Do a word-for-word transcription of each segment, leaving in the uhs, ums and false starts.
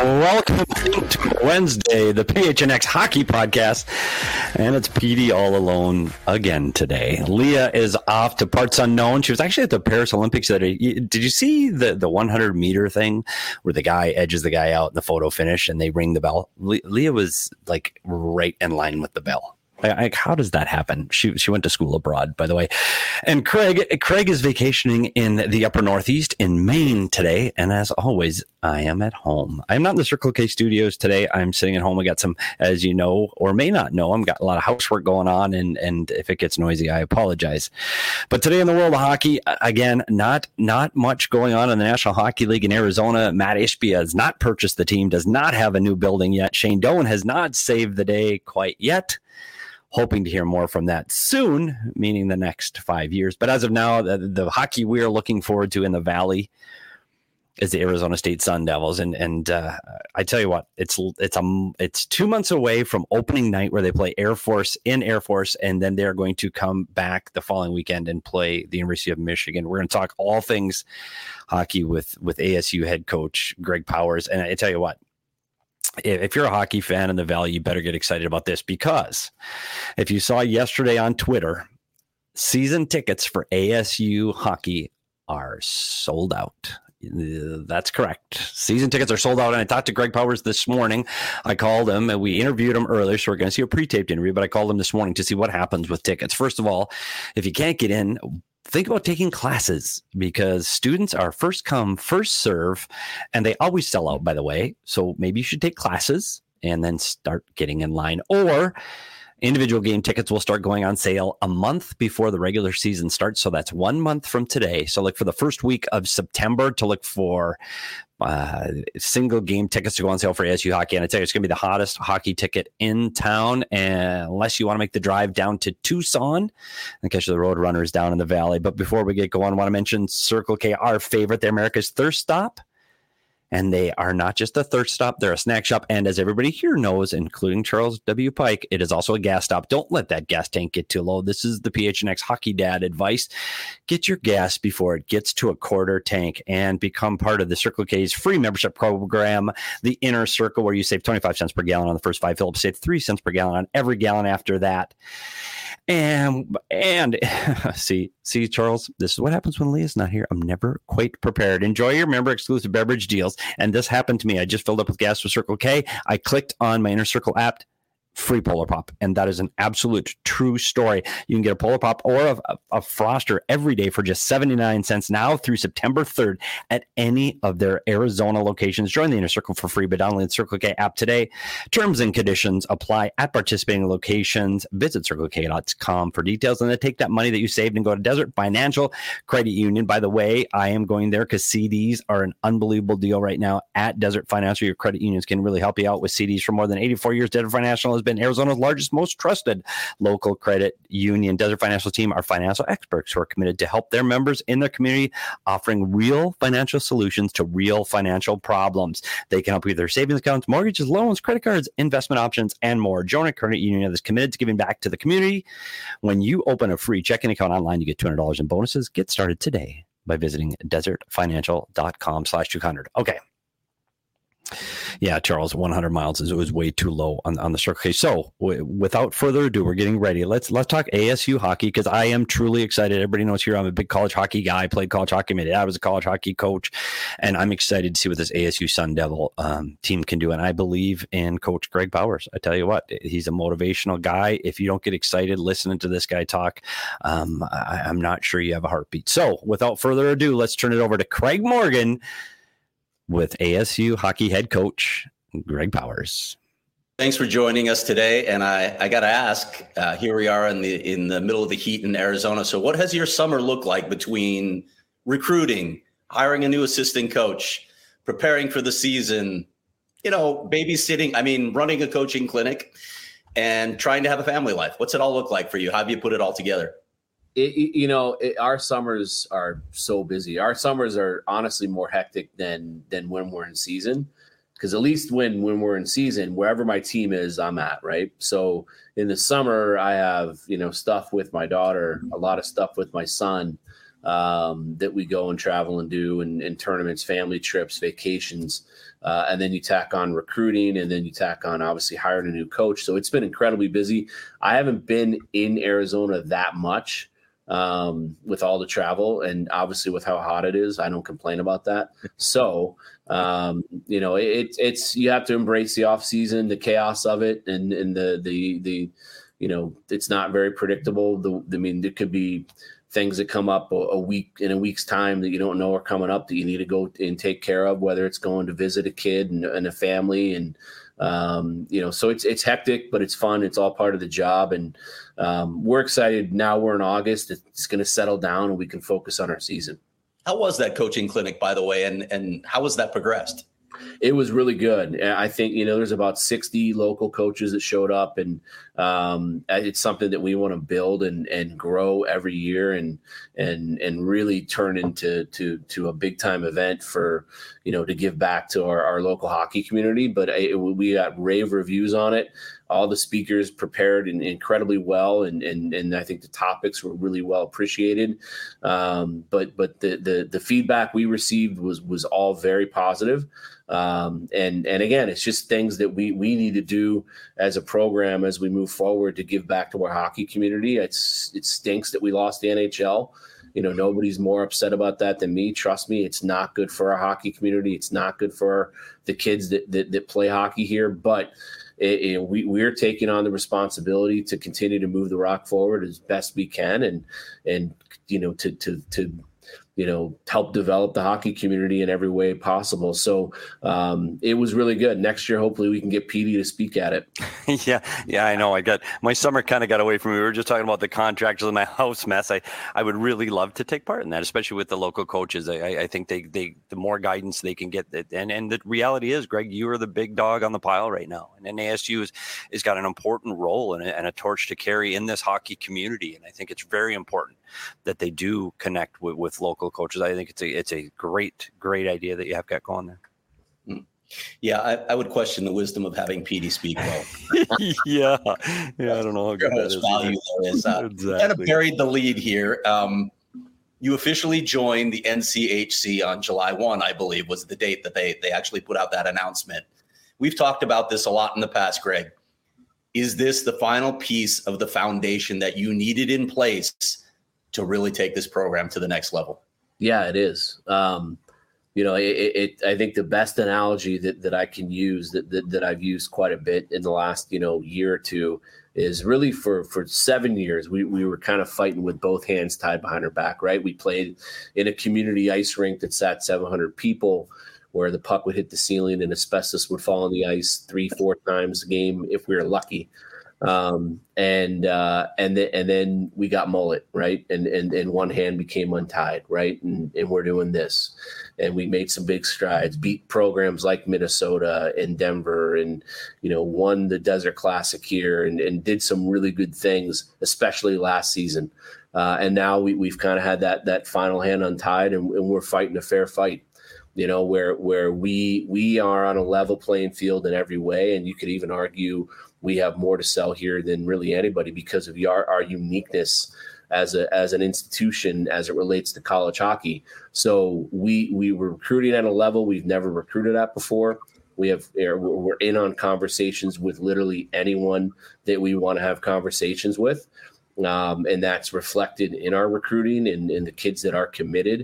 Welcome to Wednesday, the P H N X Hockey Podcast, and it's P D all alone again today. Leah is off to parts unknown. She was actually at the Paris Olympics today. Did you see the, the hundred meter thing where the guy edges the guy out in the photo finish and they ring the bell? Le- Leah was like right in line with the bell. Like, how does that happen? She she went to school abroad, by the way. And Craig Craig is vacationing in the upper Northeast in Maine today. And as always, I am at home. I'm not in the Circle K studios today. I'm sitting at home. I got some, as you know, or may not know, I've got a lot of housework going on. And, and if it gets noisy, I apologize. But today in the world of hockey, again, not not much going on in the National Hockey League in Arizona. Matt Ishbia has not purchased the team, does not have a new building yet. Shane Doan has not saved the day quite yet. Hoping to hear more from that soon, meaning the next five years. But as of now, the, the hockey we are looking forward to in the Valley is the Arizona State Sun Devils. And and uh, I tell you what, it's it's um it's two months away from opening night where they play Air Force in Air Force, and then they're going to come back the following weekend and play the University of Michigan. We're going to talk all things hockey with with A S U head coach Greg Powers. And I tell you what, if you're a hockey fan in the Valley, you better get excited about this, because if you saw yesterday on Twitter, season tickets for A S U hockey are sold out. That's correct. Season tickets are sold out. And I talked to Greg Powers this morning. I called him and we interviewed him earlier. So we're going to see a pre-taped interview, but I called him this morning to see what happens with tickets. First of all, if you can't get in, think about taking classes, because students are first come, first serve, and they always sell out, by the way. So maybe you should take classes and then start getting in line. Or individual game tickets will start going on sale a month before the regular season starts. So that's one month from today. So look for the first week of September to look for uh, single game tickets to go on sale for A S U hockey. And I tell you, it's going to be the hottest hockey ticket in town, and unless you want to make the drive down to Tucson and catch the Road Runners down in the Valley. But before we get going, I want to mention Circle K, our favorite, the America's Thirst Stop. And they are not just a thirst stop, they're a snack shop. And as everybody here knows, including Charles W. Pike, it is also a gas stop. Don't let that gas tank get too low. This is the P H N X Hockey Dad advice. Get your gas before it gets to a quarter tank, and become part of the Circle K's free membership program, the Inner Circle, where you save twenty-five cents per gallon on the first five fills, save three cents per gallon on every gallon after that. And, and see, see, Charles, this is what happens when Leah's not here. I'm never quite prepared. Enjoy your member exclusive beverage deals. And this happened to me. I just filled up with gas with Circle K. I clicked on my Inner Circle app, free Polar Pop. And that is an absolute true story. You can get a Polar Pop or a, a, a Froster every day for just seventy-nine cents now through September third at any of their Arizona locations. Join the Inner Circle for free, but download the Circle K app today. Terms and conditions apply at participating locations. Visit circle k dot com for details. And then take that money that you saved and go to Desert Financial Credit Union. By the way, I am going there because C Ds are an unbelievable deal right now at Desert Financial. Your credit unions can really help you out with C Ds for more than eighty-four years. Desert Financial has been Arizona's largest, most trusted local credit union. Desert Financial team are financial experts who are committed to help their members in their community, offering real financial solutions to real financial problems. They can help you with their savings accounts, mortgages, loans, credit cards, investment options, and more. Join a credit union that is committed to giving back to the community. When you open a free checking account online, you get two hundred dollars in bonuses. Get started today by visiting desert financial dot com slash two hundred. Okay. Yeah, Charles, one hundred miles is was way too low on, on the Circle K. So w- without further ado, we're getting ready. Let's let's talk A S U hockey, because I am truly excited. Everybody knows here I'm a big college hockey guy. I played college hockey. My dad was a college hockey coach, and I'm excited to see what this A S U Sun Devil um, team can do. And I believe in Coach Greg Powers. I tell you what, he's a motivational guy. If you don't get excited listening to this guy talk, um, I, I'm not sure you have a heartbeat. So without further ado, let's turn it over to Craig Morgan with A S U hockey head coach Greg Powers. Thanks for joining us today. And I, I got to ask, uh, here we are in the in the middle of the heat in Arizona. So what has your summer looked like between recruiting, hiring a new assistant coach, preparing for the season, you know, babysitting, I mean, running a coaching clinic and trying to have a family life? What's it all look like for you? How have you put it all together? It, you know, it, our summers are so busy. Our summers are honestly more hectic than than when we're in season, because at least when when we're in season, wherever my team is, I'm at, right? So in the summer, I have, you know, stuff with my daughter, a lot of stuff with my son. um, that we go and travel and do, and, and tournaments, family trips, vacations. Uh, and then you tack on recruiting, and then you tack on obviously hiring a new coach. So it's been incredibly busy. I haven't been in Arizona that much um, with all the travel, and obviously with how hot it is, I don't complain about that. So, um, you know, it, it's, you have to embrace the off season, the chaos of it, and, and the, the, the, you know, it's not very predictable. The, I mean, there could be things that come up a, a week in a week's time that you don't know are coming up that you need to go and take care of, whether it's going to visit a kid and, and a family. And, um, you know, so it's, it's hectic, but it's fun. It's all part of the job. And um, we're excited. Now we're in August. It's going to settle down and we can focus on our season. How was that coaching clinic, by the way? And, and how has that progressed? It was really good. I think, you know, there's about sixty local coaches that showed up, and um, it's something that we want to build and, and grow every year, and and and really turn into to to a big time event for, you know, to give back to our, our local hockey community. But it, we got rave reviews on it. All the speakers prepared in, incredibly well, and, and and I think the topics were really well appreciated. Um, but but the, the the feedback we received was was all very positive. Um, and and again, it's just things that we we need to do as a program as we move forward to give back to our hockey community. It's it stinks that we lost the N H L. You know, nobody's more upset about that than me. Trust me, it's not good for our hockey community. It's not good for the kids that that, that play hockey here. But it, it, we we're taking on the responsibility to continue to move the Rock forward as best we can, and and you know to to to. you know, help develop the hockey community in every way possible. So um, it was really good. Next year, hopefully we can get P D to speak at it. yeah. Yeah, I know. I got my summer kind of got away from me. We were just talking about the contractors and my house mess. I, I would really love to take part in that, especially with the local coaches. I, I think they, they, the more guidance they can get. And, and the reality is, Greg, you are the big dog on the pile right now. And N A S U has, has got an important role and a, and a torch to carry in this hockey community. And I think it's very important that they do connect with, with local coaches. I think it's a it's a great, great idea that you have got going there. Yeah, I, I would question the wisdom of having P D speak well. yeah, yeah, I don't know how good that is. Value there is. Uh, exactly. Kind of buried the lead here. Um, you officially joined the N C H C on July first, I believe, was the date that they they actually put out that announcement. We've talked about this a lot in the past, Greg. Is this the final piece of the foundation that you needed in place to really take this program to the next level? Yeah, it is. Um, you know, it, it, I think the best analogy that, that I can use that, that, that I've used quite a bit in the last, you know, year or two is really for, for seven years, we, we were kind of fighting with both hands tied behind our back, right? We played in a community ice rink that sat seven hundred people, where the puck would hit the ceiling and asbestos would fall on the ice three, four times a game if we were lucky. Um, and, uh, and then, and then we got mullet, right. And, and, and one hand became untied. Right. And, and we're doing this, and we made some big strides, beat programs like Minnesota and Denver, and, you know, won the Desert Classic here, and, and did some really good things, especially last season. Uh, and now we, we've kind of had that, that final hand untied, and, and we're fighting a fair fight, you know, where, where we, we are on a level playing field in every way. And you could even argue we have more to sell here than really anybody because of our, our uniqueness as a as an institution as it relates to college hockey. So we we were recruiting at a level we've never recruited at before. We have we're in on conversations with literally anyone that we want to have conversations with, um, and that's reflected in our recruiting and, and the kids that are committed.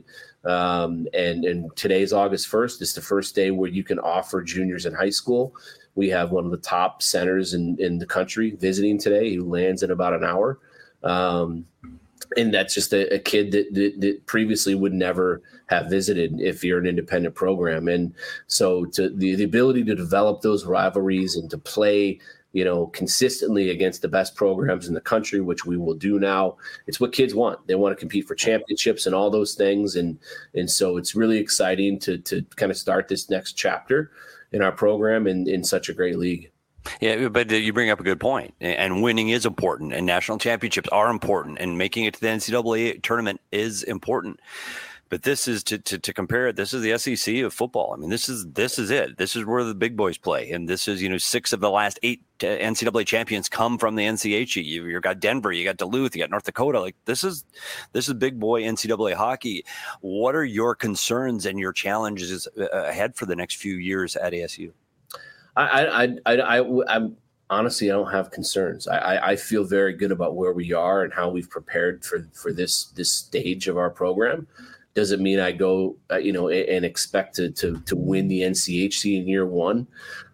Um, and and today's August first is the first day where you can offer juniors in high school. We have one of the top centers in, in the country visiting today, who lands in about an hour. Um, and that's just a, a kid that, that, that previously would never have visited if you're an independent program. And so to the, the ability to develop those rivalries and to play, you know, consistently against the best programs in the country, which we will do now, it's what kids want. They want to compete for championships and all those things. And, and so it's really exciting to, to kind of start this next chapter in our program in, in such a great league. Yeah, but you bring up a good point, and winning is important, and national championships are important, and making it to the N C double A tournament is important. But this is to, to to compare it. This is the S E C of football. I mean, this is this is it. This is where the big boys play, and this is you know six of the last eight N C double A champions come from the N C H E. You you got Denver, you got Duluth, you got North Dakota. Like this is this is big boy N C double A hockey. What are your concerns and your challenges ahead for the next few years at A S U? I I I, I I'm honestly I don't have concerns. I, I I feel very good about where we are and how we've prepared for for this this stage of our program. Doesn't mean I go, uh, you know, and expect to, to to win the N C H C in year one.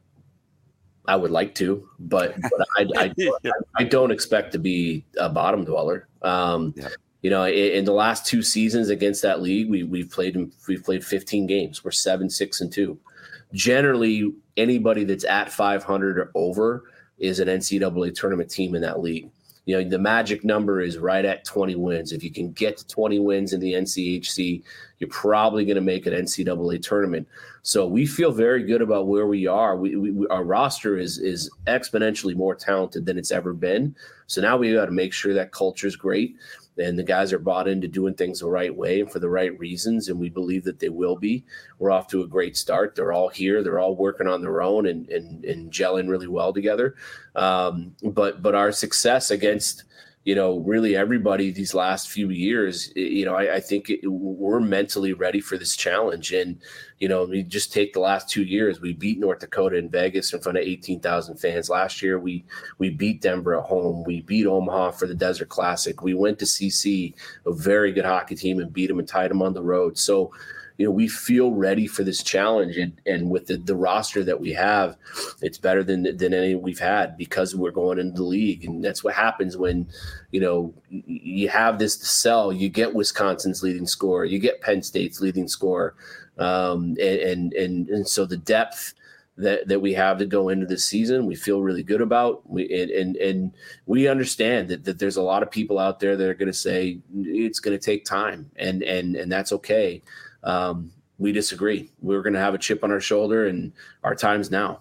I would like to, but, but I, I, I, I don't expect to be a bottom dweller. Um, yeah. You know, in, in the last two seasons against that league, we we've played we've played fifteen games. We're seven, six, and two. Generally, anybody that's at five hundred or over is an N C double A tournament team in that league. You know, the magic number is right at twenty wins. If you can get to twenty wins in the N C H C, you're probably going to make an N C double A tournament. So we feel very good about where we are. We, we our roster is is exponentially more talented than it's ever been. So now we got to make sure that culture is great and the guys are bought into doing things the right way and for the right reasons, and we believe that they will be. We're off to a great start. They're all here. They're all working on their own and and, and gelling really well together. Um, but but our success against, you know, really everybody these last few years, you know, I, I think it, we're mentally ready for this challenge. And, you know, we just take the last two years. We beat North Dakota in Vegas in front of eighteen thousand fans. Last year, we we beat Denver at home. We beat Omaha for the Desert Classic. We went to C C, a very good hockey team, and beat them and tied them on the road. So, you know, we feel ready for this challenge, and, and with the, the roster that we have, it's better than than any we've had because we're going into the league. And that's what happens when, you know, you have this to sell. You get Wisconsin's leading scorer, you get Penn State's leading scorer, um, and, and and and so the depth that that we have to go into this season, we feel really good about. We and and, and we understand that, that there's a lot of people out there that are going to say it's going to take time, and and and that's okay. Um, we disagree. We're going to have a chip on our shoulder, and our time's now.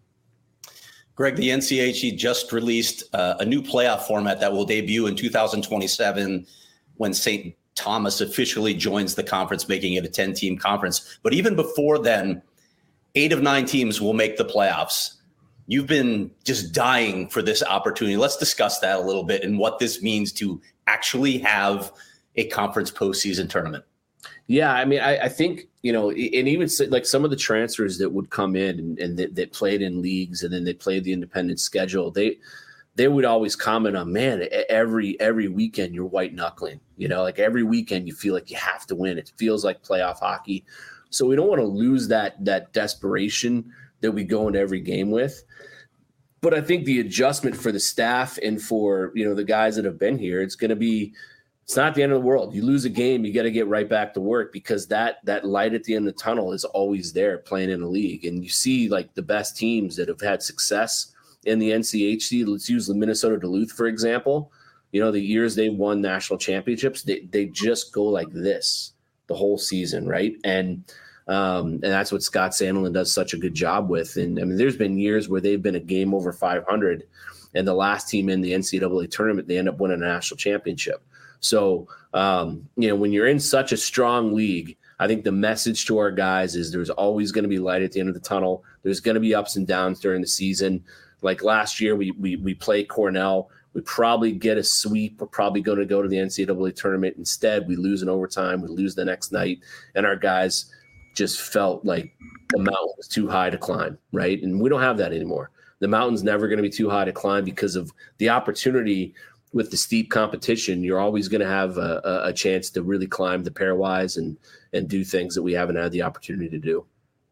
Greg, the N C H E just released uh, a new playoff format that will debut in two thousand twenty-seven when Saint Thomas officially joins the conference, making it a ten-team conference. But even before then, eight of nine teams will make the playoffs. You've been just dying for this opportunity. Let's discuss that a little bit and what this means to actually have a conference postseason tournament. Yeah, I mean, I, I think, you know, and even like some of the transfers that would come in and, and that, that played in leagues and then they played the independent schedule, they they would always comment on, man, every every weekend you're white knuckling, you know, like every weekend you feel like you have to win. It feels like playoff hockey. So we don't want to lose that that desperation that we go into every game with. But I think the adjustment for the staff and for, you know, the guys that have been here, it's going to be, it's not the end of the world. You lose a game, you got to get right back to work because that that light at the end of the tunnel is always there playing in a league. And you see like the best teams that have had success in the N C H C. Let's use the Minnesota Duluth, for example. You know, the years they won national championships, they, they just go like this the whole season, right? And um, and that's what Scott Sandelin does such a good job with. And I mean, there's been years where they've been a game over five hundred, and the last team in the N C double A tournament, they end up winning a national championship. So, um, you know, when you're in such a strong league, I think the message to our guys is there's always going to be light at the end of the tunnel. There's going to be ups and downs during the season. Like last year, we we we play Cornell. We probably get a sweep. We're probably going to go to the N C double A tournament. Instead, we lose in overtime. We lose the next night. And our guys just felt like the mountain was too high to climb, right? And we don't have that anymore. The mountain's never going to be too high to climb because of the opportunity. With the steep competition, you're always going to have a, a chance to really climb the pairwise and and do things that we haven't had the opportunity to do.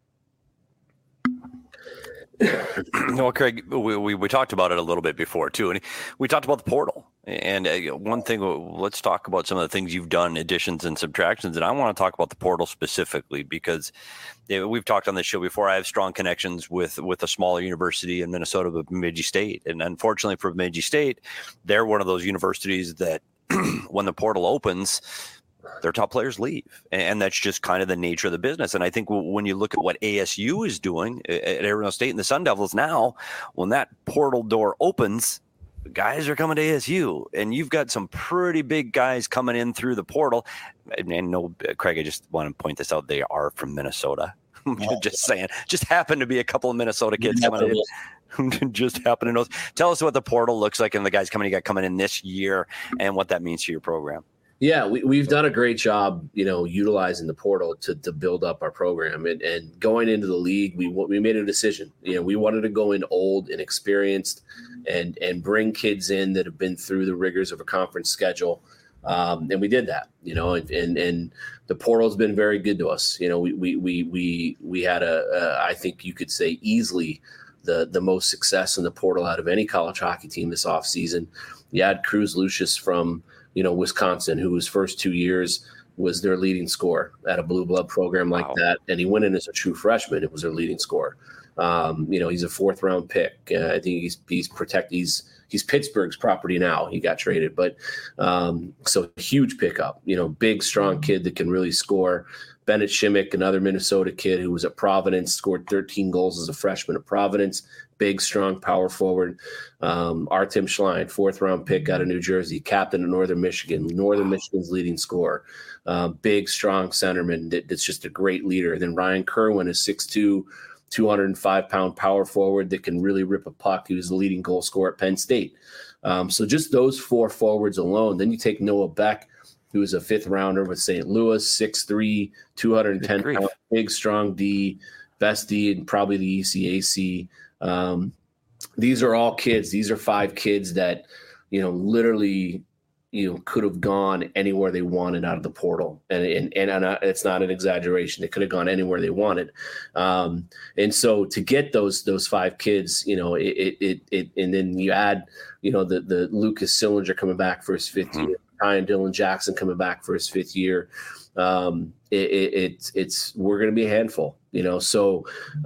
Well, Craig, we, we we talked about it a little bit before too, and we talked about the portal. And uh, one thing, let's talk about some of the things you've done, additions and subtractions. And I want to talk about the portal specifically because you know, we've talked on this show before. I have strong connections with with a smaller university in Minnesota, Bemidji State. And unfortunately for Bemidji State, they're one of those universities that when the portal opens, their top players leave. And that's just kind of the nature of the business. And I think when you look at what A S U is doing at Arizona State and the Sun Devils now, when that portal door opens, guys are coming to A S U, and you've got some pretty big guys coming in through the portal. And, and no, Craig, I just want to point this out. They are from Minnesota. Just saying. Just happen to be a couple of Minnesota kids coming in. Just happen to know. Tell us what the portal looks like and the guys coming you got coming in this year and what that means to your program. Yeah, we, we've done a great job, you know, utilizing the portal to to build up our program. And, and going into the league, we we made a decision. You know, we wanted to go in old and experienced and and bring kids in that have been through the rigors of a conference schedule. Um, and we did that, you know, and, and, and the portal's been very good to us. You know, we, we, we, we, we had a, a, I think you could say easily the, the most success in the portal out of any college hockey team this offseason. You had Cruz Lucius from, you know, Wisconsin, who his first two years was their leading scorer at a blue blood program like wow. that. And he went in as a true freshman. It was their leading scorer. Um, you know, he's a fourth round pick. Uh, I think he's, he's protect, he's, He's Pittsburgh's property now. He got traded, but um, so huge pickup. You know, big, strong kid that can really score. Bennett Shimmick, another Minnesota kid who was at Providence, scored thirteen goals as a freshman at Providence. Big, strong power forward. Um, Artem Schlein, fourth round pick out of New Jersey, captain of Northern Michigan, Northern Michigan's leading scorer. Uh, big, strong centerman that, that's just a great leader. Then Ryan Kerwin is six two. two hundred five pound power forward that can really rip a puck. He was the leading goal scorer at Penn State. Um, so just those four forwards alone. Then you take Noah Beck, who was a fifth rounder with Saint Louis, six three, two hundred ten pound, big, strong D, best D in probably the E C A C. Um, these are all kids. These are five kids that, you know, literally – you know, could have gone anywhere they wanted out of the portal. And, and, and, and it's not an exaggeration. They could have gone anywhere they wanted. Um, and so to get those, those five kids, you know, it, it, it, and then you add, you know, the, the Lucas Sillinger coming back for his fifth mm-hmm. year, Ryan Dylan Jackson coming back for his fifth year. Um, it, it, it's, it's, we're going to be a handful, you know? So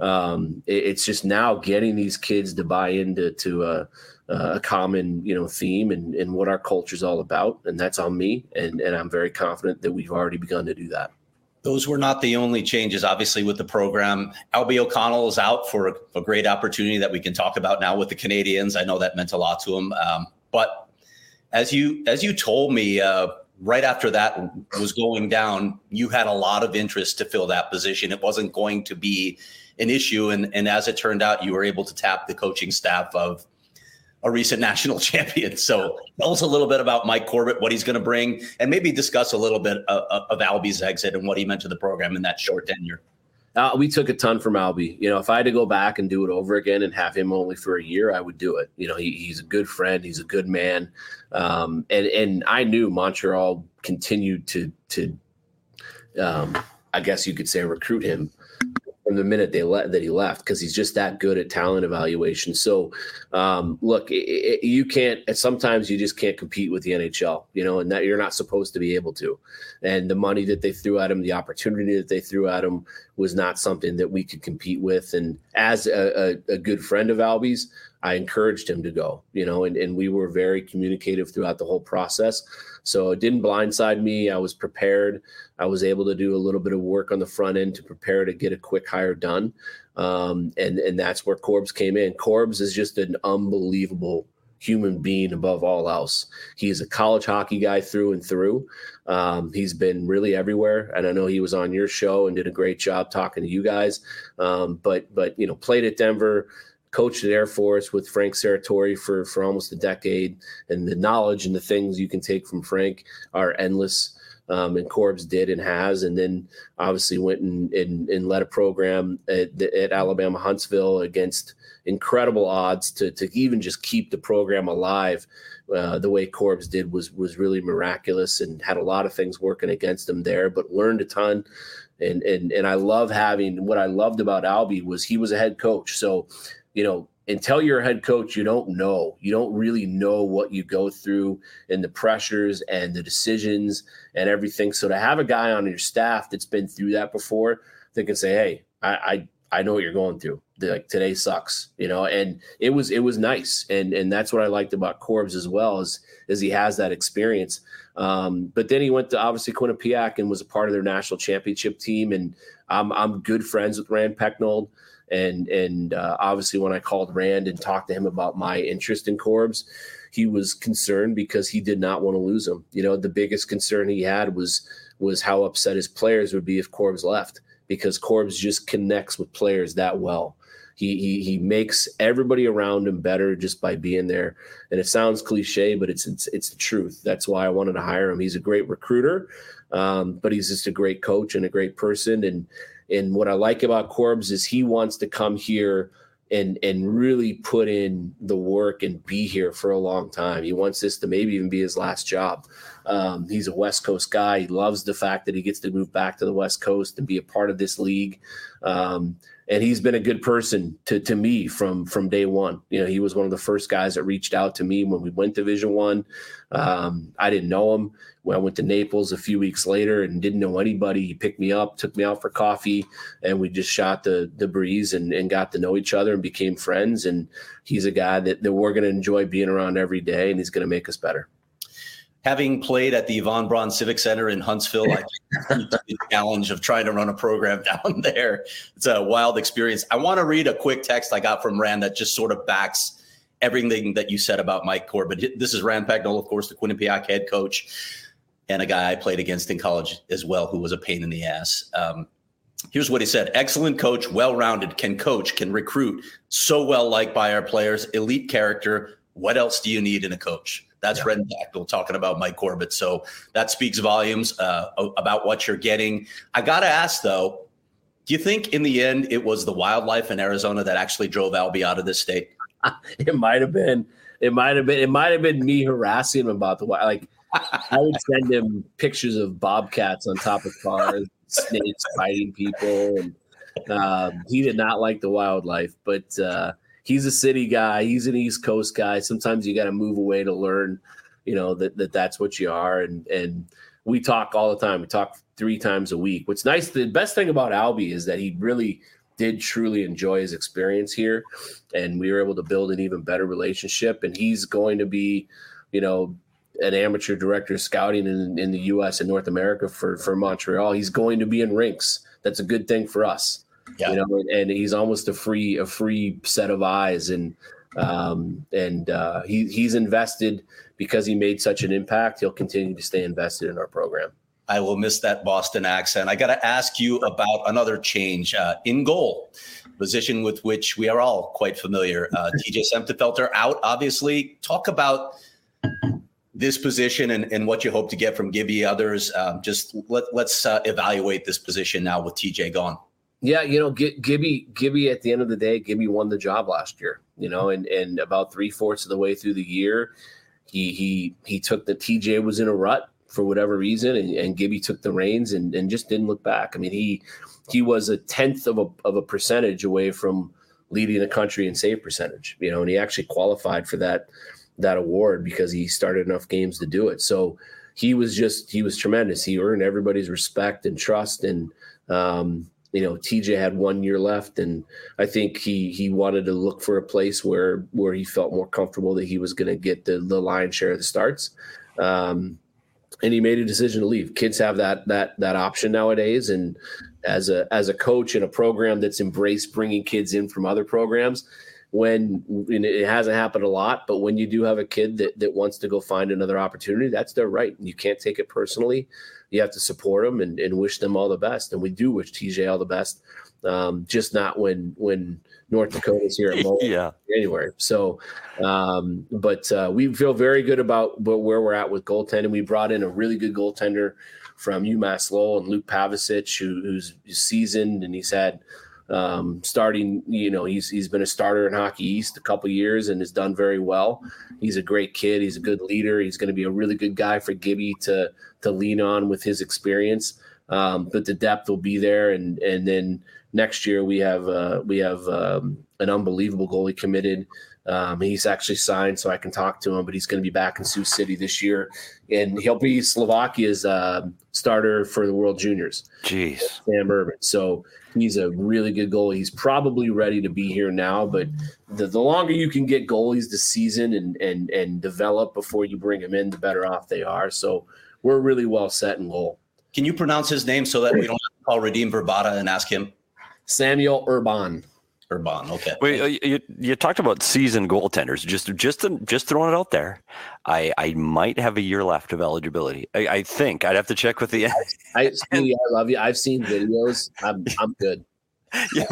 um, it, it's just now getting these kids to buy into, to, uh, Uh, a common, you know, theme and, and what our culture is all about. And that's on me. And, and I'm very confident that we've already begun to do that. Those were not the only changes, obviously, with the program. Albie O'Connell is out for a, a great opportunity that we can talk about now with the Canadians. I know that meant a lot to him. Um, but as you as you told me, uh, right after that was going down, you had a lot of interest to fill that position. It wasn't going to be an issue. And, and as it turned out, you were able to tap the coaching staff of a recent national champion. So tell us a little bit about Mike Corbett, what he's going to bring, and maybe discuss a little bit of, of Albie's exit and what he meant to the program in that short tenure. Uh, we took a ton from Albie. You know, if I had to go back and do it over again and have him only for a year, I would do it. You know, he, he's a good friend. He's a good man. Um, and, and I knew Montreal continued to, to um, I guess you could say, recruit him from the minute they let that he left, because he's just that good at talent evaluation. So, um, look, it, it, you can't. Sometimes you just can't compete with the N H L, you know, and that you're not supposed to be able to. And the money that they threw at him, the opportunity that they threw at him, was not something that we could compete with. And as a, a, a good friend of Albie's, I encouraged him to go, you know, and, and we were very communicative throughout the whole process. So it didn't blindside me. I was prepared. I was able to do a little bit of work on the front end to prepare to get a quick hire done. Um, and, and that's where Corbs came in. Corbs is just an unbelievable human being above all else. He is a college hockey guy through and through. Um, he's been really everywhere. And I know he was on your show and did a great job talking to you guys. Um, but, but, you know, played at Denver, coached at Air Force with Frank Serratori for, for almost a decade, and the knowledge and the things you can take from Frank are endless. Um, and Corbs did and has, and then obviously went and, and, and led a program at, at Alabama Huntsville against incredible odds to, to even just keep the program alive. Uh, the way Corbs did was, was really miraculous, and had a lot of things working against him there, but learned a ton. And, and, and I love having, what I loved about Albie was he was a head coach. So, you know, until you're a head coach, you don't know. You don't really know what you go through and the pressures and the decisions and everything. So to have a guy on your staff that's been through that before, they can say, hey, I I, I know what you're going through. They're like, today sucks, you know, and it was it was nice. And and that's what I liked about Corbs as well, is, is he has that experience. Um, but then he went to obviously Quinnipiac and was a part of their national championship team. And I'm I'm good friends with Rand Pecknold. And and uh, obviously when I called Rand and talked to him about my interest in Corbs, he was concerned because he did not want to lose him. You know, the biggest concern he had was was how upset his players would be if Corbs left, because Corbs just connects with players that well. He, he he makes everybody around him better just by being there. And it sounds cliche, but it's it's, it's the truth. That's why I wanted to hire him. He's a great recruiter, um, but he's just a great coach and a great person. And and what I like about Corbs is he wants to come here and and really put in the work and be here for a long time. He wants this to maybe even be his last job. Um, he's a West Coast guy. He loves the fact that he gets to move back to the West Coast and be a part of this league. Um, and he's been a good person to to me from from day one. You know, he was one of the first guys that reached out to me when we went to Division One. Um, I didn't know him. When I went to Naples a few weeks later and didn't know anybody, he picked me up, took me out for coffee, and we just shot the the breeze and, and got to know each other and became friends. And he's a guy that, that we're going to enjoy being around every day, and he's going to make us better. Having played at the Yvonne Braun Civic Center in Huntsville, I think the challenge of trying to run a program down there. It's a wild experience. I want to read a quick text I got from Rand that just sort of backs everything that you said about Mike Corbett. This is Rand Pagnol, of course, the Quinnipiac head coach, and a guy I played against in college as well, who was a pain in the ass. Um, here's what he said. Excellent coach, well-rounded, can coach, can recruit, so well liked by our players, elite character. What else do you need in a coach? That's yeah. Red Pagnol talking about Mike Corbett. So that speaks volumes uh, about what you're getting. I got to ask, though, do you think in the end it was the wildlife in Arizona that actually drove Albie out of this state? It might have been. It might have been. It might have been me harassing him about the wild. Like, I would send him pictures of bobcats on top of cars, snakes biting people, and uh, he did not like the wildlife. But uh, he's a city guy. He's an East Coast guy. Sometimes you got to move away to learn, you know, that, that that's what you are. And and we talk all the time. We talk three times a week. What's nice, the best thing about Albie is that he really did truly enjoy his experience here, and we were able to build an even better relationship. And he's going to be, you know, an amateur director of scouting in, in the U S and North America for, for Montreal. He's going to be in rinks. That's a good thing for us. Yeah. You know, and, and he's almost a free, a free set of eyes. And, um, and, uh, he, he's invested because he made such an impact. He'll continue to stay invested in our program. I will miss that Boston accent. I got to ask you about another change uh, in goal, position with which we are all quite familiar. Uh, T J Semptifelter out, obviously. Talk about this position and, and what you hope to get from Gibby, others. Um, just let, let's uh, evaluate this position now with T J gone. Yeah, you know, G- Gibby, Gibby, at the end of the day, Gibby won the job last year, you know, and, and about three fourths of the way through the year, he he he took the T J was in a rut for whatever reason, and, and Gibby took the reins and, and just didn't look back. I mean, he he was a tenth of a of a percentage away from leading the country in save percentage, you know, and he actually qualified for that that award because he started enough games to do it. So he was just, he was tremendous. He earned everybody's respect and trust. And, um, you know, T J had one year left, and I think he, he wanted to look for a place where, where he felt more comfortable that he was going to get the, the lion's share of the starts. Um, and he made a decision to leave. Kids have that, that, that option nowadays. And as a, as a coach in a program that's embraced bringing kids in from other programs, when and it hasn't happened a lot, but when you do have a kid that, that wants to go find another opportunity, that's their right. You can't take it personally. You have to support them and, and wish them all the best. And we do wish T J all the best, um, just not when when North Dakota's here at Mo yeah. in January. So, um, but uh, we feel very good about where we're at with goaltending. We brought in a really good goaltender from UMass Lowell and Luke Pavicic, who, who's seasoned, and he's had – Um, starting, you know, he's he's been a starter in Hockey East a couple of years and has done very well. He's a great kid. He's a good leader. He's going to be a really good guy for Gibby to to lean on with his experience. Um, but the depth will be there, and and then next year we have uh, we have um, an unbelievable goalie committed. Um, he's actually signed, so I can talk to him. But he's going to be back in Sioux City this year, and he'll be Slovakia's uh, starter for the World Juniors. Jeez, Sam Urban. So he's a really good goalie. He's probably ready to be here now, but the, the longer you can get goalies to season and and and develop before you bring them in, the better off they are. So we're really well set in goal. Can you pronounce his name so that we don't have to call Radim Verbata and ask him? Samuel Urban. Urban, okay. Well, you, you talked about seasoned goaltenders. Just just just throwing it out there. I, I might have a year left of eligibility. I, I think I'd have to check with the. I, I, Speedy, I love you. I've seen videos. I'm I'm good. Yeah.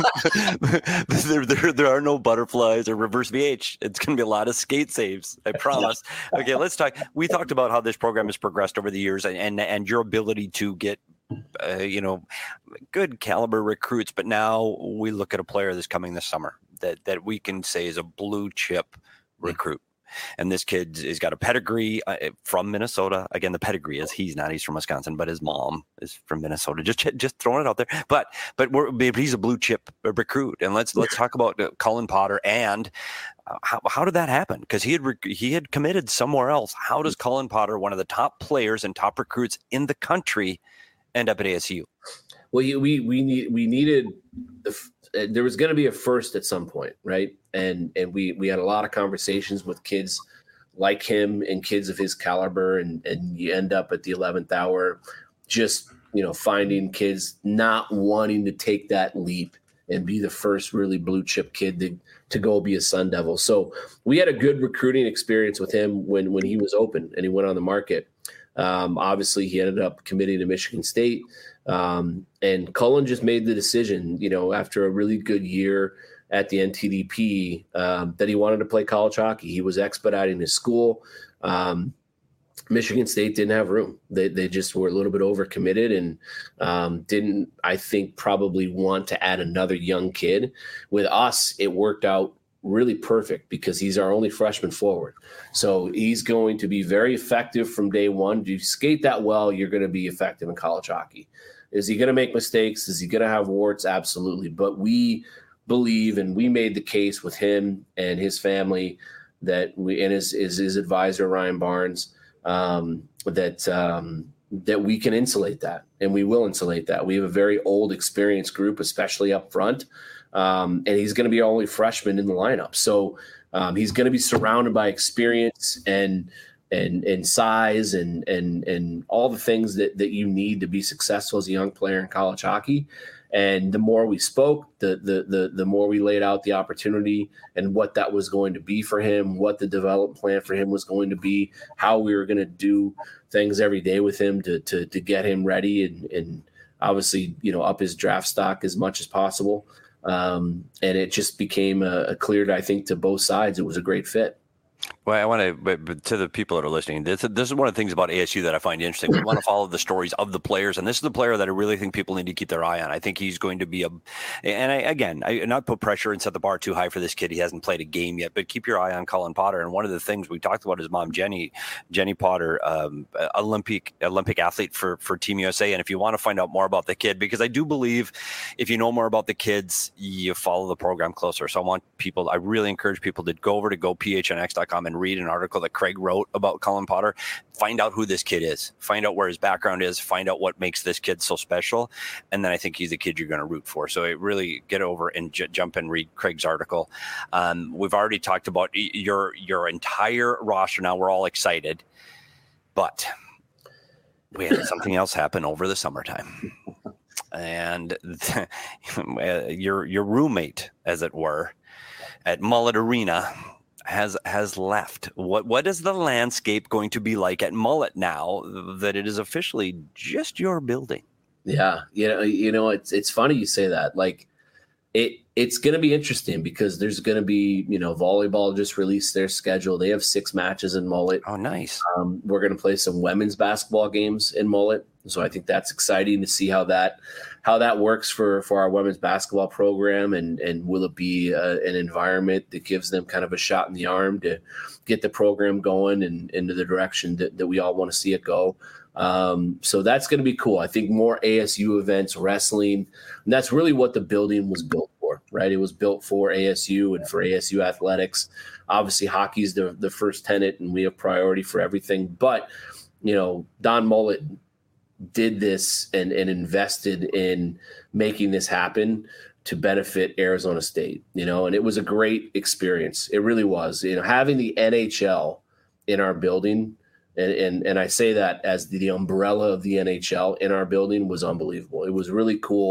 there, there, there are no butterflies or reverse V H. It's going to be a lot of skate saves. I promise. Okay, let's talk. We talked about how this program has progressed over the years, and and, and your ability to get, uh, you know, good caliber recruits. But now we look at a player that's coming this summer that that we can say is a blue chip recruit. And this kid has got a pedigree uh, from Minnesota. Again, the pedigree is he's not. He's from Wisconsin, but his mom is from Minnesota. Just just throwing it out there. But but we're, he's a blue chip recruit. And let's let's talk about uh, Cullen Potter and uh, how how did that happen? Because he had rec- he had committed somewhere else. How does Cullen Potter, one of the top players and top recruits in the country, end up at A S U? Well, we we need we needed the. There was going to be a first at some point, right? And and we we had a lot of conversations with kids like him and kids of his caliber, and and you end up at the eleventh hour, just you know finding kids not wanting to take that leap and be the first really blue chip kid to to go be a Sun Devil. So we had a good recruiting experience with him when when he was open and he went on the market. Um, obviously, he ended up committing to Michigan State. Um, and Cullen just made the decision, you know, after a really good year at the N T D P, um, that he wanted to play college hockey. He was expediting his school. Um, Michigan State didn't have room. They they just were a little bit overcommitted and um, didn't, I think, probably want to add another young kid. With us, it worked out really perfect because he's our only freshman forward. So he's going to be very effective from day one. Do you skate that well, you're going to be effective in college hockey. Is he going to make mistakes? Is he going to have warts? Absolutely. But we believe, and we made the case with him and his family that we, and his, his, his advisor, Ryan Barnes, um, that, um, that we can insulate that, and we will insulate that. We have a very old, experienced group, especially up front. Um, and he's going to be our only freshman in the lineup. So um, he's going to be surrounded by experience and and and size and and and all the things that that you need to be successful as a young player in college hockey. And the more we spoke, the the the the more we laid out the opportunity and what that was going to be for him, what the development plan for him was going to be, how we were going to do things every day with him to to to get him ready and and obviously, you know, up his draft stock as much as possible. Um, and it just became a, a clear, I think, to both sides. It was a great fit. Well, I want to, but, but to the people that are listening, this, this is one of the things about A S U that I find interesting. We want to follow the stories of the players, and this is the player that I really think people need to keep their eye on. I think he's going to be a, and I, again, I not put pressure and set the bar too high for this kid. He hasn't played a game yet, but keep your eye on Cullen Potter. And one of the things we talked about his mom, Jenny, Jenny Potter, um, Olympic Olympic athlete for for Team U S A. And if you want to find out more about the kid, because I do believe if you know more about the kids, you follow the program closer. So I want people, I really encourage people to go over to go P H N X dot com and read an article that Craig wrote about Cullen Potter. Find out who this kid is, find out where his background is, find out what makes this kid so special. And then I think he's a kid you're going to root for. So it really get over and j- jump and read Craig's article. Um, we've already talked about your, your entire roster. Now we're all excited, but we had something else happen over the summertime. And the, your, your roommate, as it were, at Mullet Arena has has left. What what is the landscape going to be like at Mullet now that it is officially just your building? Yeah, you know, you know, it's it's funny you say that. Like, it it's going to be interesting because there's going to be, you know, volleyball just released their schedule. They have six matches in Mullet. Oh, nice. Um, we're going to play some women's basketball games in Mullet, so I think that's exciting to see how that how that works for for our women's basketball program, and and will it be uh, an environment that gives them kind of a shot in the arm to get the program going and into the direction that, that we all want to see it go. Um, so that's going to be cool. I think more A S U events, wrestling, and that's really what the building was built for, right? It was built for A S U and for A S U athletics. Obviously, hockey is the, the first tenet, and we have priority for everything. But, you know, Don Mullet did this and, and invested in making this happen to benefit Arizona State, you know, and it was a great experience. It really was. You know, having the N H L in our building, and and, and I say that as the, the umbrella of the N H L in our building, was unbelievable. It was really cool.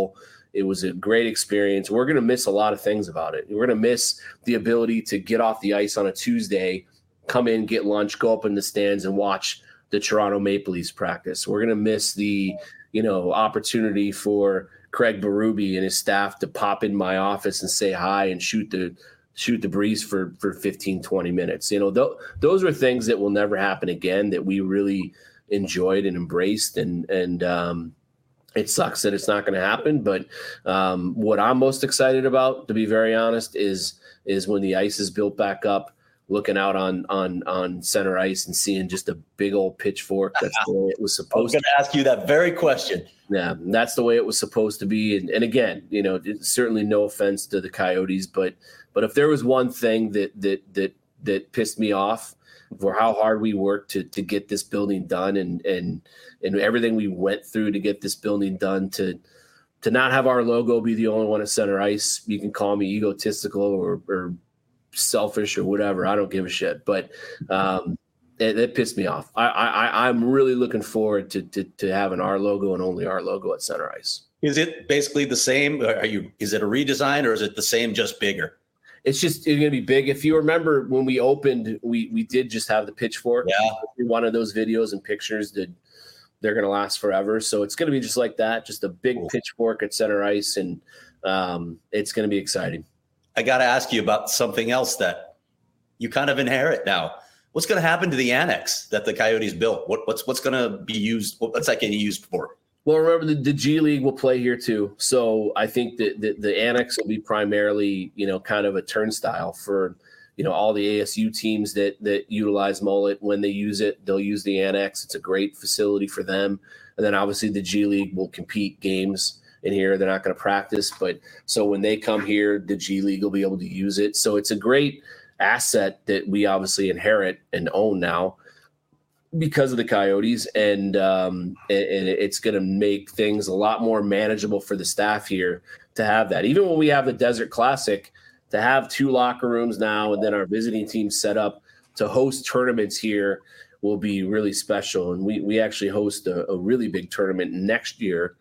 It was a great experience. We're going to miss a lot of things about it. We're going to miss the ability to get off the ice on a Tuesday, come in, get lunch, go up in the stands and watch the Toronto Maple Leafs practice. We're going to miss the, you know, opportunity for Craig Berube and his staff to pop in my office and say hi and shoot the shoot the breeze for, for fifteen, twenty minutes. You know, th- those are things that will never happen again that we really enjoyed and embraced. And, and, um, it sucks that it's not going to happen, but um, what I'm most excited about, to be very honest, is is when the ice is built back up, looking out on on on center ice and seeing just a big old pitchfork. That's the way it was supposed. I was going to ask you that very question. Yeah, that's the way it was supposed to be. And, and again, you know, certainly no offense to the Coyotes, but but if there was one thing that that that that pissed me off for how hard we worked to to get this building done and and and everything we went through to get this building done, to to not have our logo be the only one at center ice. You can call me egotistical or, or selfish or whatever. I don't give a shit. But um, it, it pissed me off. I, I I'm really looking forward to, to to having our logo and only our logo at center ice. Is it basically the same? Are you? Is it a redesign or is it the same, just bigger? It's just it's going to be big. If you remember when we opened, we we did just have the pitchfork. Yeah. One of those videos and pictures that they're going to last forever. So it's going to be just like that, just a big cool. pitchfork at center ice, and um, it's going to be exciting. I got to ask you about something else that you kind of inherit now. What's going to happen to the annex that the Coyotes built? What, what's what's going to be used? What's that getting used for? Well, remember the, the G League will play here too. So I think that the, the annex will be primarily, you know, kind of a turnstile for, you know, all the A S U teams that that utilize Mullet. When they use it, they'll use the annex. It's a great facility for them. And then obviously the G League will compete games in here. They're not going to practice, but so when they come here, the G League will be able to use it. So it's a great asset that we obviously inherit and own now because of the Coyotes, and um, and it's going to make things a lot more manageable for the staff here to have that. Even when we have the Desert Classic, to have two locker rooms now and then our visiting team set up to host tournaments here will be really special. And we we actually host a, a really big tournament next year,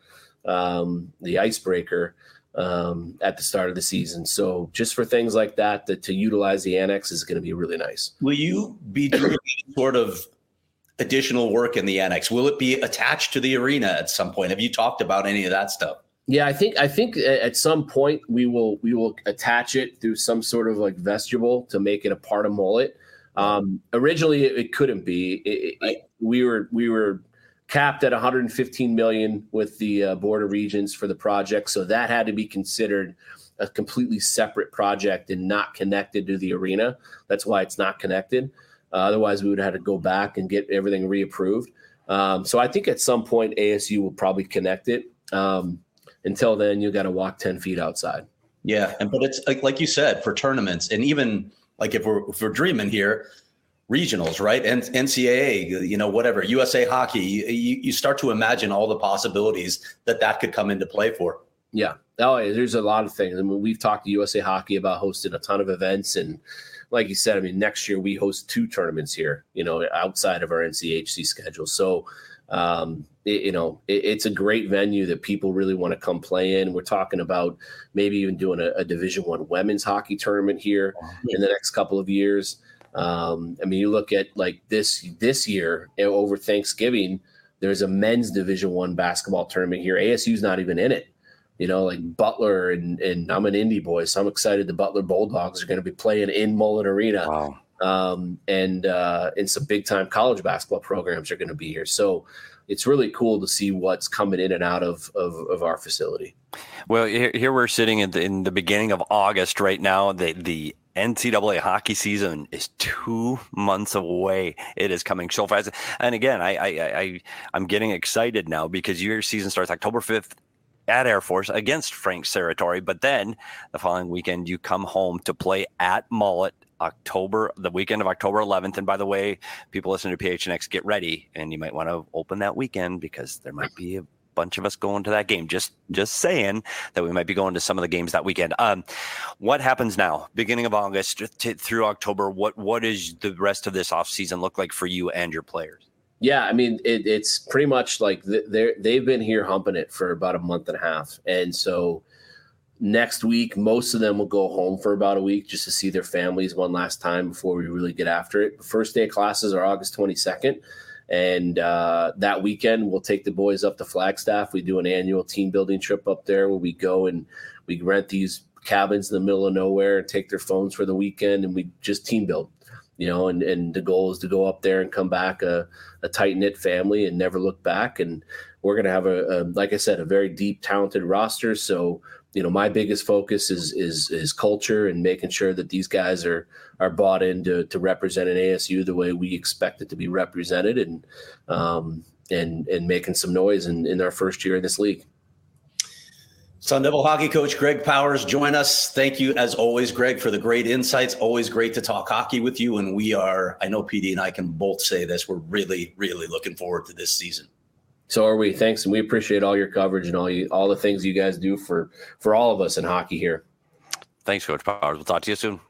um, the Icebreaker, um, at the start of the season. So just for things like that, that to utilize the annex is going to be really nice. Will you be doing sort of additional work in the annex? Will it be attached to the arena at some point? Have you talked about any of that stuff? Yeah, I think I think at some point we will we will attach it through some sort of like vestibule to make it a part of Mullet. Um, originally, it, it couldn't be. It, it, we were we were capped at one hundred fifteen million dollars with the uh, Board of Regents for the project, so that had to be considered a completely separate project and not connected to the arena. That's why it's not connected. Uh, otherwise, we would have had to go back and get everything reapproved. Um, so I think at some point A S U will probably connect it. Um, until then, you got to walk ten feet outside. Yeah, and but it's like like you said, for tournaments, and even like if we're if we're dreaming here, regionals, right? And N C double A, you know, whatever, U S A Hockey, you, you start to imagine all the possibilities that that could come into play for. Yeah, oh, there's a lot of things. I mean, we've talked to U S A Hockey about hosting a ton of events, and like you said, I mean, next year we host two tournaments here, you know, outside of our N C H C schedule. So, um, it, you know, it, it's a great venue that people really want to come play in. We're talking about maybe even doing a, a Division One women's hockey tournament here in the next couple of years. Um, I mean, you look at like this this year over Thanksgiving, there's a men's Division One basketball tournament here. A S U's not even in it. You know, like Butler and and I'm an Indy boy, so I'm excited the Butler Bulldogs are going to be playing in Mullet Arena. Wow. Um, and uh, and some big time college basketball programs are going to be here. So it's really cool to see what's coming in and out of of, of our facility. Well, here, here we're sitting in the, in the beginning of August right now. The the N C double A hockey season is two months away. It is coming so fast. And again, I I, I I'm getting excited now because your season starts October fifth. At Air Force against Frank Serratori, but then the following weekend you come home to play at Mullet October, the weekend of October eleventh. And by the way, people listening to P H N X, get ready, and you might want to open that weekend because there might be a bunch of us going to that game. Just, just saying that we might be going to some of the games that weekend. Um, what happens now, beginning of August to, through October? What, what is the rest of this off season look like for you and your players? Yeah, I mean, it, it's pretty much like they're, they've been here humping it for about a month and a half. And so next week, most of them will go home for about a week just to see their families one last time before we really get after it. The first day of classes are August twenty-second. And uh, that weekend, we'll take the boys up to Flagstaff. We do an annual team building trip up there where we go and we rent these cabins in the middle of nowhere and take their phones for the weekend, and we just team build. You know, and, and the goal is to go up there and come back a, a tight-knit family and never look back. And we're going to have, a, a, like I said, a very deep, talented roster. So, you know, my biggest focus is is is culture and making sure that these guys are are bought in to, to represent an A S U the way we expect it to be represented, and um, and and making some noise in, in our first year in this league. Sun Devil hockey coach Greg Powers, join us. Thank you, as always, Greg, for the great insights. Always great to talk hockey with you. And we are, I know P D and I can both say this, we're really, really looking forward to this season. So are we. Thanks. And we appreciate all your coverage and all you, all the things you guys do for, for all of us in hockey here. Thanks, Coach Powers. We'll talk to you soon.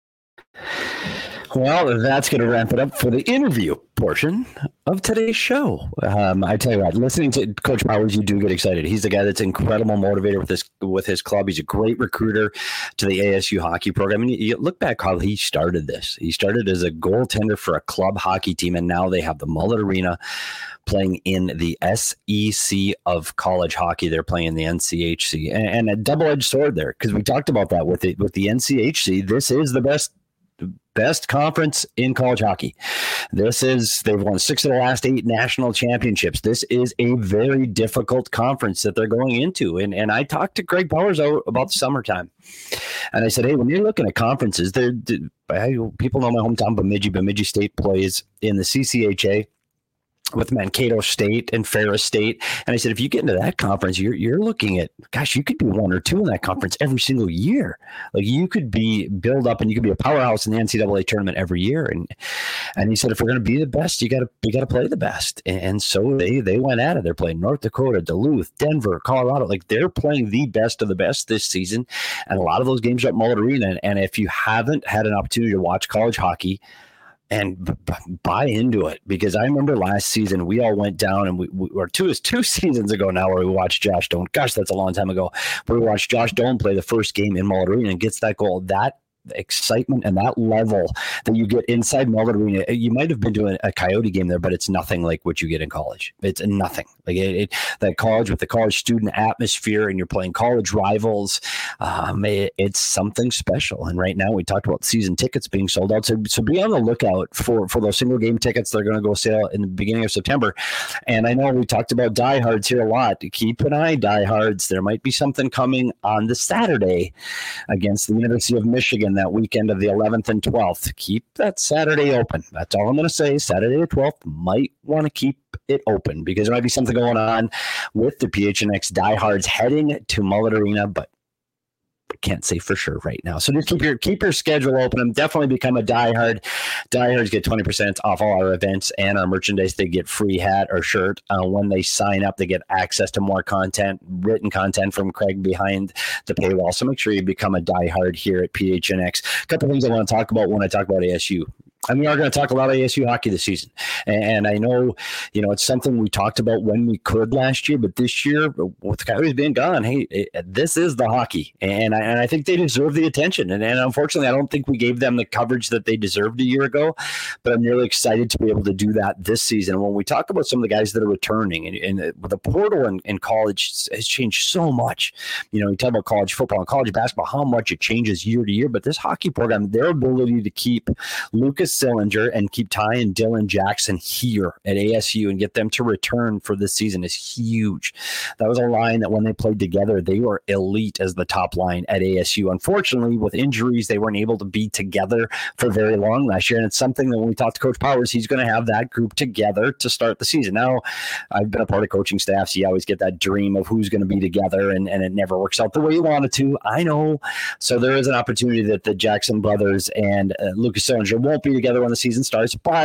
Well, that's going to wrap it up for the interview portion of today's show. Um, I tell you what, listening to Coach Powers, you do get excited. He's the guy that's an incredible motivator with his with his club. He's a great recruiter to the A S U hockey program. And you, you look back how he started this. He started as a goaltender for a club hockey team, and now they have the Mullet Arena playing in the S E C of college hockey. They're playing the N C H C, and, and a double-edged sword there, because we talked about that with the, with the N C H C. This is the best best conference in college hockey. This is, they've won six of the last eight national championships. This is a very difficult conference that they're going into. And and I talked to Greg Powers about the summertime. And I said, hey, when you're looking at conferences, there people know my hometown, Bemidji. Bemidji State plays in the C C H A with Mankato State and Ferris State. And I said, if you get into that conference, you're you're looking at, gosh, you could be one or two in that conference every single year. Like, you could be build up and you could be a powerhouse in the N C double A tournament every year. And and he said, if we're going to be the best, you got to you got to play the best. And, and so they they went at it. They're playing North Dakota, Duluth, Denver, Colorado. Like, they're playing the best of the best this season. And a lot of those games are at Mullet Arena. And, and if you haven't had an opportunity to watch college hockey, and b- b- buy into it, because I remember last season we all went down and we, we or two is two seasons ago now where we watched Josh Doan. Gosh, that's a long time ago. But we watched Josh Doan play the first game in Mullet Arena and gets that goal. That excitement and that level that you get inside Mullet Arena, you might have been to a, a Coyote game there, but it's nothing like what you get in college. It's nothing like it, it that college with the college student atmosphere, and you're playing college rivals. Um, it, it's something special. And right now we talked about season tickets being sold out. So, so be on the lookout for, for those single game tickets. They're going to go sale in the beginning of September. And I know we talked about diehards here a lot. Keep an eye, diehards. There might be something coming on the Saturday against the University of Michigan that weekend of the eleventh and twelfth. Keep that Saturday open. That's all I'm going to say. Saturday the twelfth, might want to keep it open, because there might be something going on with the P H N X diehards heading to Mullet Arena, but I can't say for sure right now. So just keep your keep your schedule open and definitely become a diehard. Diehards get twenty percent off all our events and our merchandise. They get free hat or shirt. Uh, when they sign up, they get access to more content, written content from Craig behind the paywall. So make sure you become a diehard here at P H N X. A couple things I want to talk about when I talk about A S U. And we are going to talk a lot of A S U hockey this season. And I know, you know, it's something we talked about when we could last year, but this year, with the Coyotes being gone, hey, it, this is the hockey. And I, and I think they deserve the attention. And, and unfortunately, I don't think we gave them the coverage that they deserved a year ago, but I'm really excited to be able to do that this season. And when we talk about some of the guys that are returning, and, and the portal in, in college has changed so much. You know, you talk about college football and college basketball, how much it changes year to year, but this hockey program, their ability to keep Lucas Sillinger and keep Ty and Dylan Jackson here at A S U and get them to return for this season is huge. That was a line that when they played together, they were elite as the top line at A S U. Unfortunately, with injuries, they weren't able to be together for very long last year. And it's something that when we talked to Coach Powers, he's going to have that group together to start the season. Now, I've been a part of coaching staff, so you always get that dream of who's going to be together, and, and it never works out the way you want it to. I know. So there is an opportunity that the Jackson brothers and uh, Lucas Sillinger won't be together when the season starts, but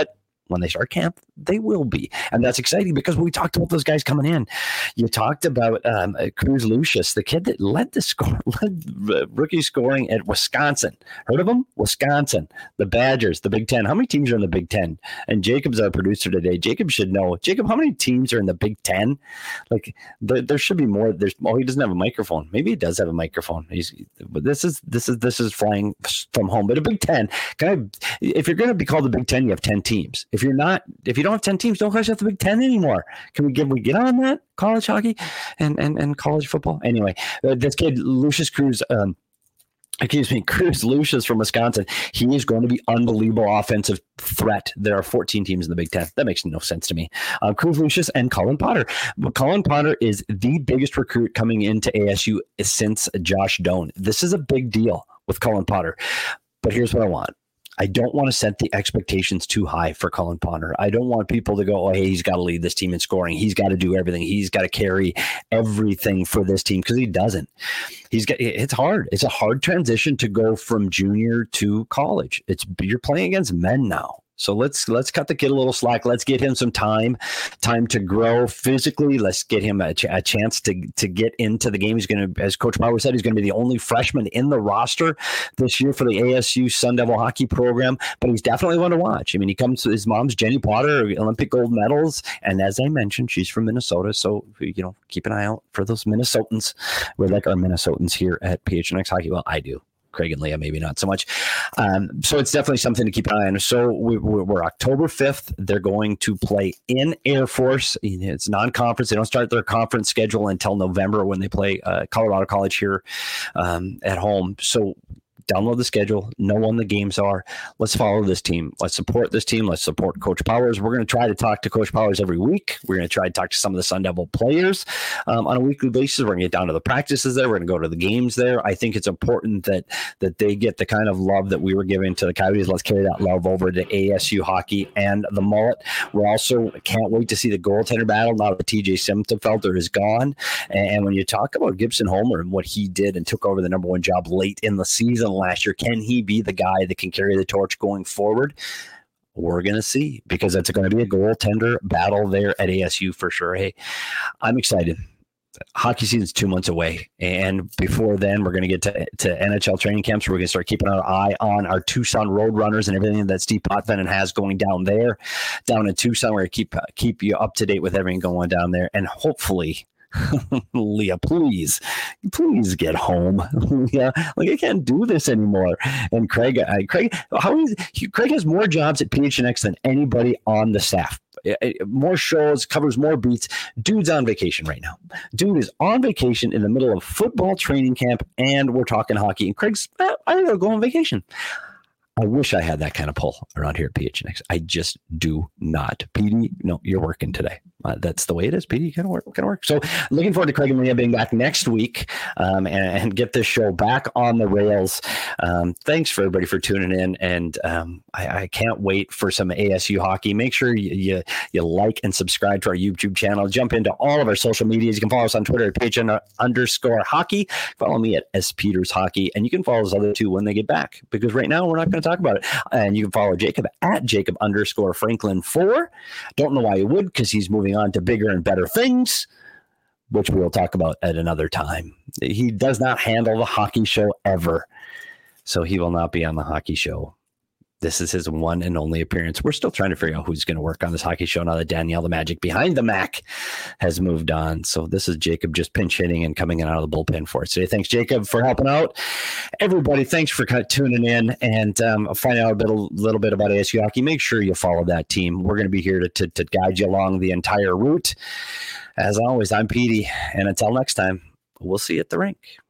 when they start camp, they will be. And that's exciting because we talked about those guys coming in. You talked about um, Cruz Lucius, the kid that led the score, led rookie scoring at Wisconsin. Heard of him? Wisconsin, the Badgers, the Big Ten. How many teams are in the Big Ten? And Jacob's our producer today. Jacob should know. Jacob, how many teams are in the Big Ten? Like there, there should be more. There's oh, he doesn't have a microphone. Maybe he does have a microphone. He's but this is this is this is flying from home. But a Big Ten, can I, if you're going to be called the Big Ten, you have ten teams. If you're not, if you don't have ten teams, don't call yourself the Big Ten anymore. Can we get we get on that? College hockey and and, and college football. Anyway, uh, this kid Lucius Cruz. Um, Excuse me, Cruz Lucius from Wisconsin. He is going to be unbelievable offensive threat. There are fourteen teams in the Big Ten. That makes no sense to me. Uh, Cruz Lucius and Colin Potter. But Colin Potter is the biggest recruit coming into A S U since Josh Doan. This is a big deal with Colin Potter. But here's what I want. I don't want to set the expectations too high for Colin Potter. I don't want people to go, oh, hey, he's got to lead this team in scoring. He's got to do everything. He's got to carry everything for this team because he doesn't. He's got. It's hard. It's a hard transition to go from junior to college. It's you're playing against men now. So let's let's cut the kid a little slack. Let's get him some time, time to grow physically. Let's get him a, ch- a chance to to get into the game. He's going to, as Coach Bauer said, he's going to be the only freshman in the roster this year for the A S U Sun Devil hockey program. But he's definitely one to watch. I mean, he comes to his mom's Jenny Potter, Olympic gold medals, and as I mentioned, she's from Minnesota. So you know, keep an eye out for those Minnesotans. We like our Minnesotans here at P H N X Hockey. Well, I do. Craig and Leah, maybe not so much. Um, so it's definitely something to keep an eye on. So we, we're October fifth. They're going to play in Air Force. It's non-conference. They don't start their conference schedule until November when they play uh, Colorado College here um, at home. So download the schedule, know when the games are. Let's follow this team. Let's support this team. Let's support Coach Powers. We're going to try to talk to Coach Powers every week. We're going to try to talk to some of the Sun Devil players um, on a weekly basis. We're going to get down to the practices there. We're going to go to the games there. I think it's important that that they get the kind of love that we were giving to the Coyotes. Let's carry that love over to A S U hockey and the Mullet. We're also can't wait to see the goaltender battle now that T J Simtenfelter is gone. And when you talk about Gibson Homer and what he did and took over the number one job late in the season last year, can he be the guy that can carry the torch going forward? We're going to see, because it's going to be a goaltender battle there at A S U for sure. Hey, I'm excited. Hockey season's two months away. And before then, we're going to get to, to N H L training camps. We're going to start keeping our eye on our Tucson Roadrunners and everything that Steve Potvin has going down there, down in Tucson. We're going to keep, uh, keep you up to date with everything going down there. And hopefully, Leah, please, please get home. Yeah, like I can't do this anymore. And Craig, I, Craig, how is he, Craig has more jobs at P H N X than anybody on the staff. More shows, covers more beats. Dude's on vacation right now. Dude is on vacation in the middle of football training camp, and we're talking hockey. And Craig's, eh, I gotta go on vacation. I wish I had that kind of pull around here at P H N X. I just do not. P D, no, you're working today. Uh, that's the way it is. P D, you gotta work, gotta work. So looking forward to Craig and Leah being back next week um, and, and get this show back on the rails. Um, thanks for everybody for tuning in, and um, I, I can't wait for some A S U hockey. Make sure you, you you like and subscribe to our YouTube channel. Jump into all of our social medias. You can follow us on Twitter at P H N underscore hockey. Follow me at S Peters Hockey, and you can follow us other two when they get back, because right now we're not going to talk about it. And you can follow Jacob at Jacob underscore Franklin four. Don't know why you would, because he's moving on to bigger and better things, which we'll talk about at another time. He does not handle the hockey show ever, so he will not be on the hockey show. This is his one and only appearance. We're still trying to figure out who's going to work on this hockey show now that Danielle the Magic behind the Mac has moved on. So this is Jacob just pinch hitting and coming in out of the bullpen for us today. Thanks, Jacob, for helping out. Everybody, thanks for kind of tuning in and um, finding out a, bit, a little bit about A S U hockey. Make sure you follow that team. We're going to be here to, to, to guide you along the entire route. As always, I'm Petey, and until next time, we'll see you at the rink.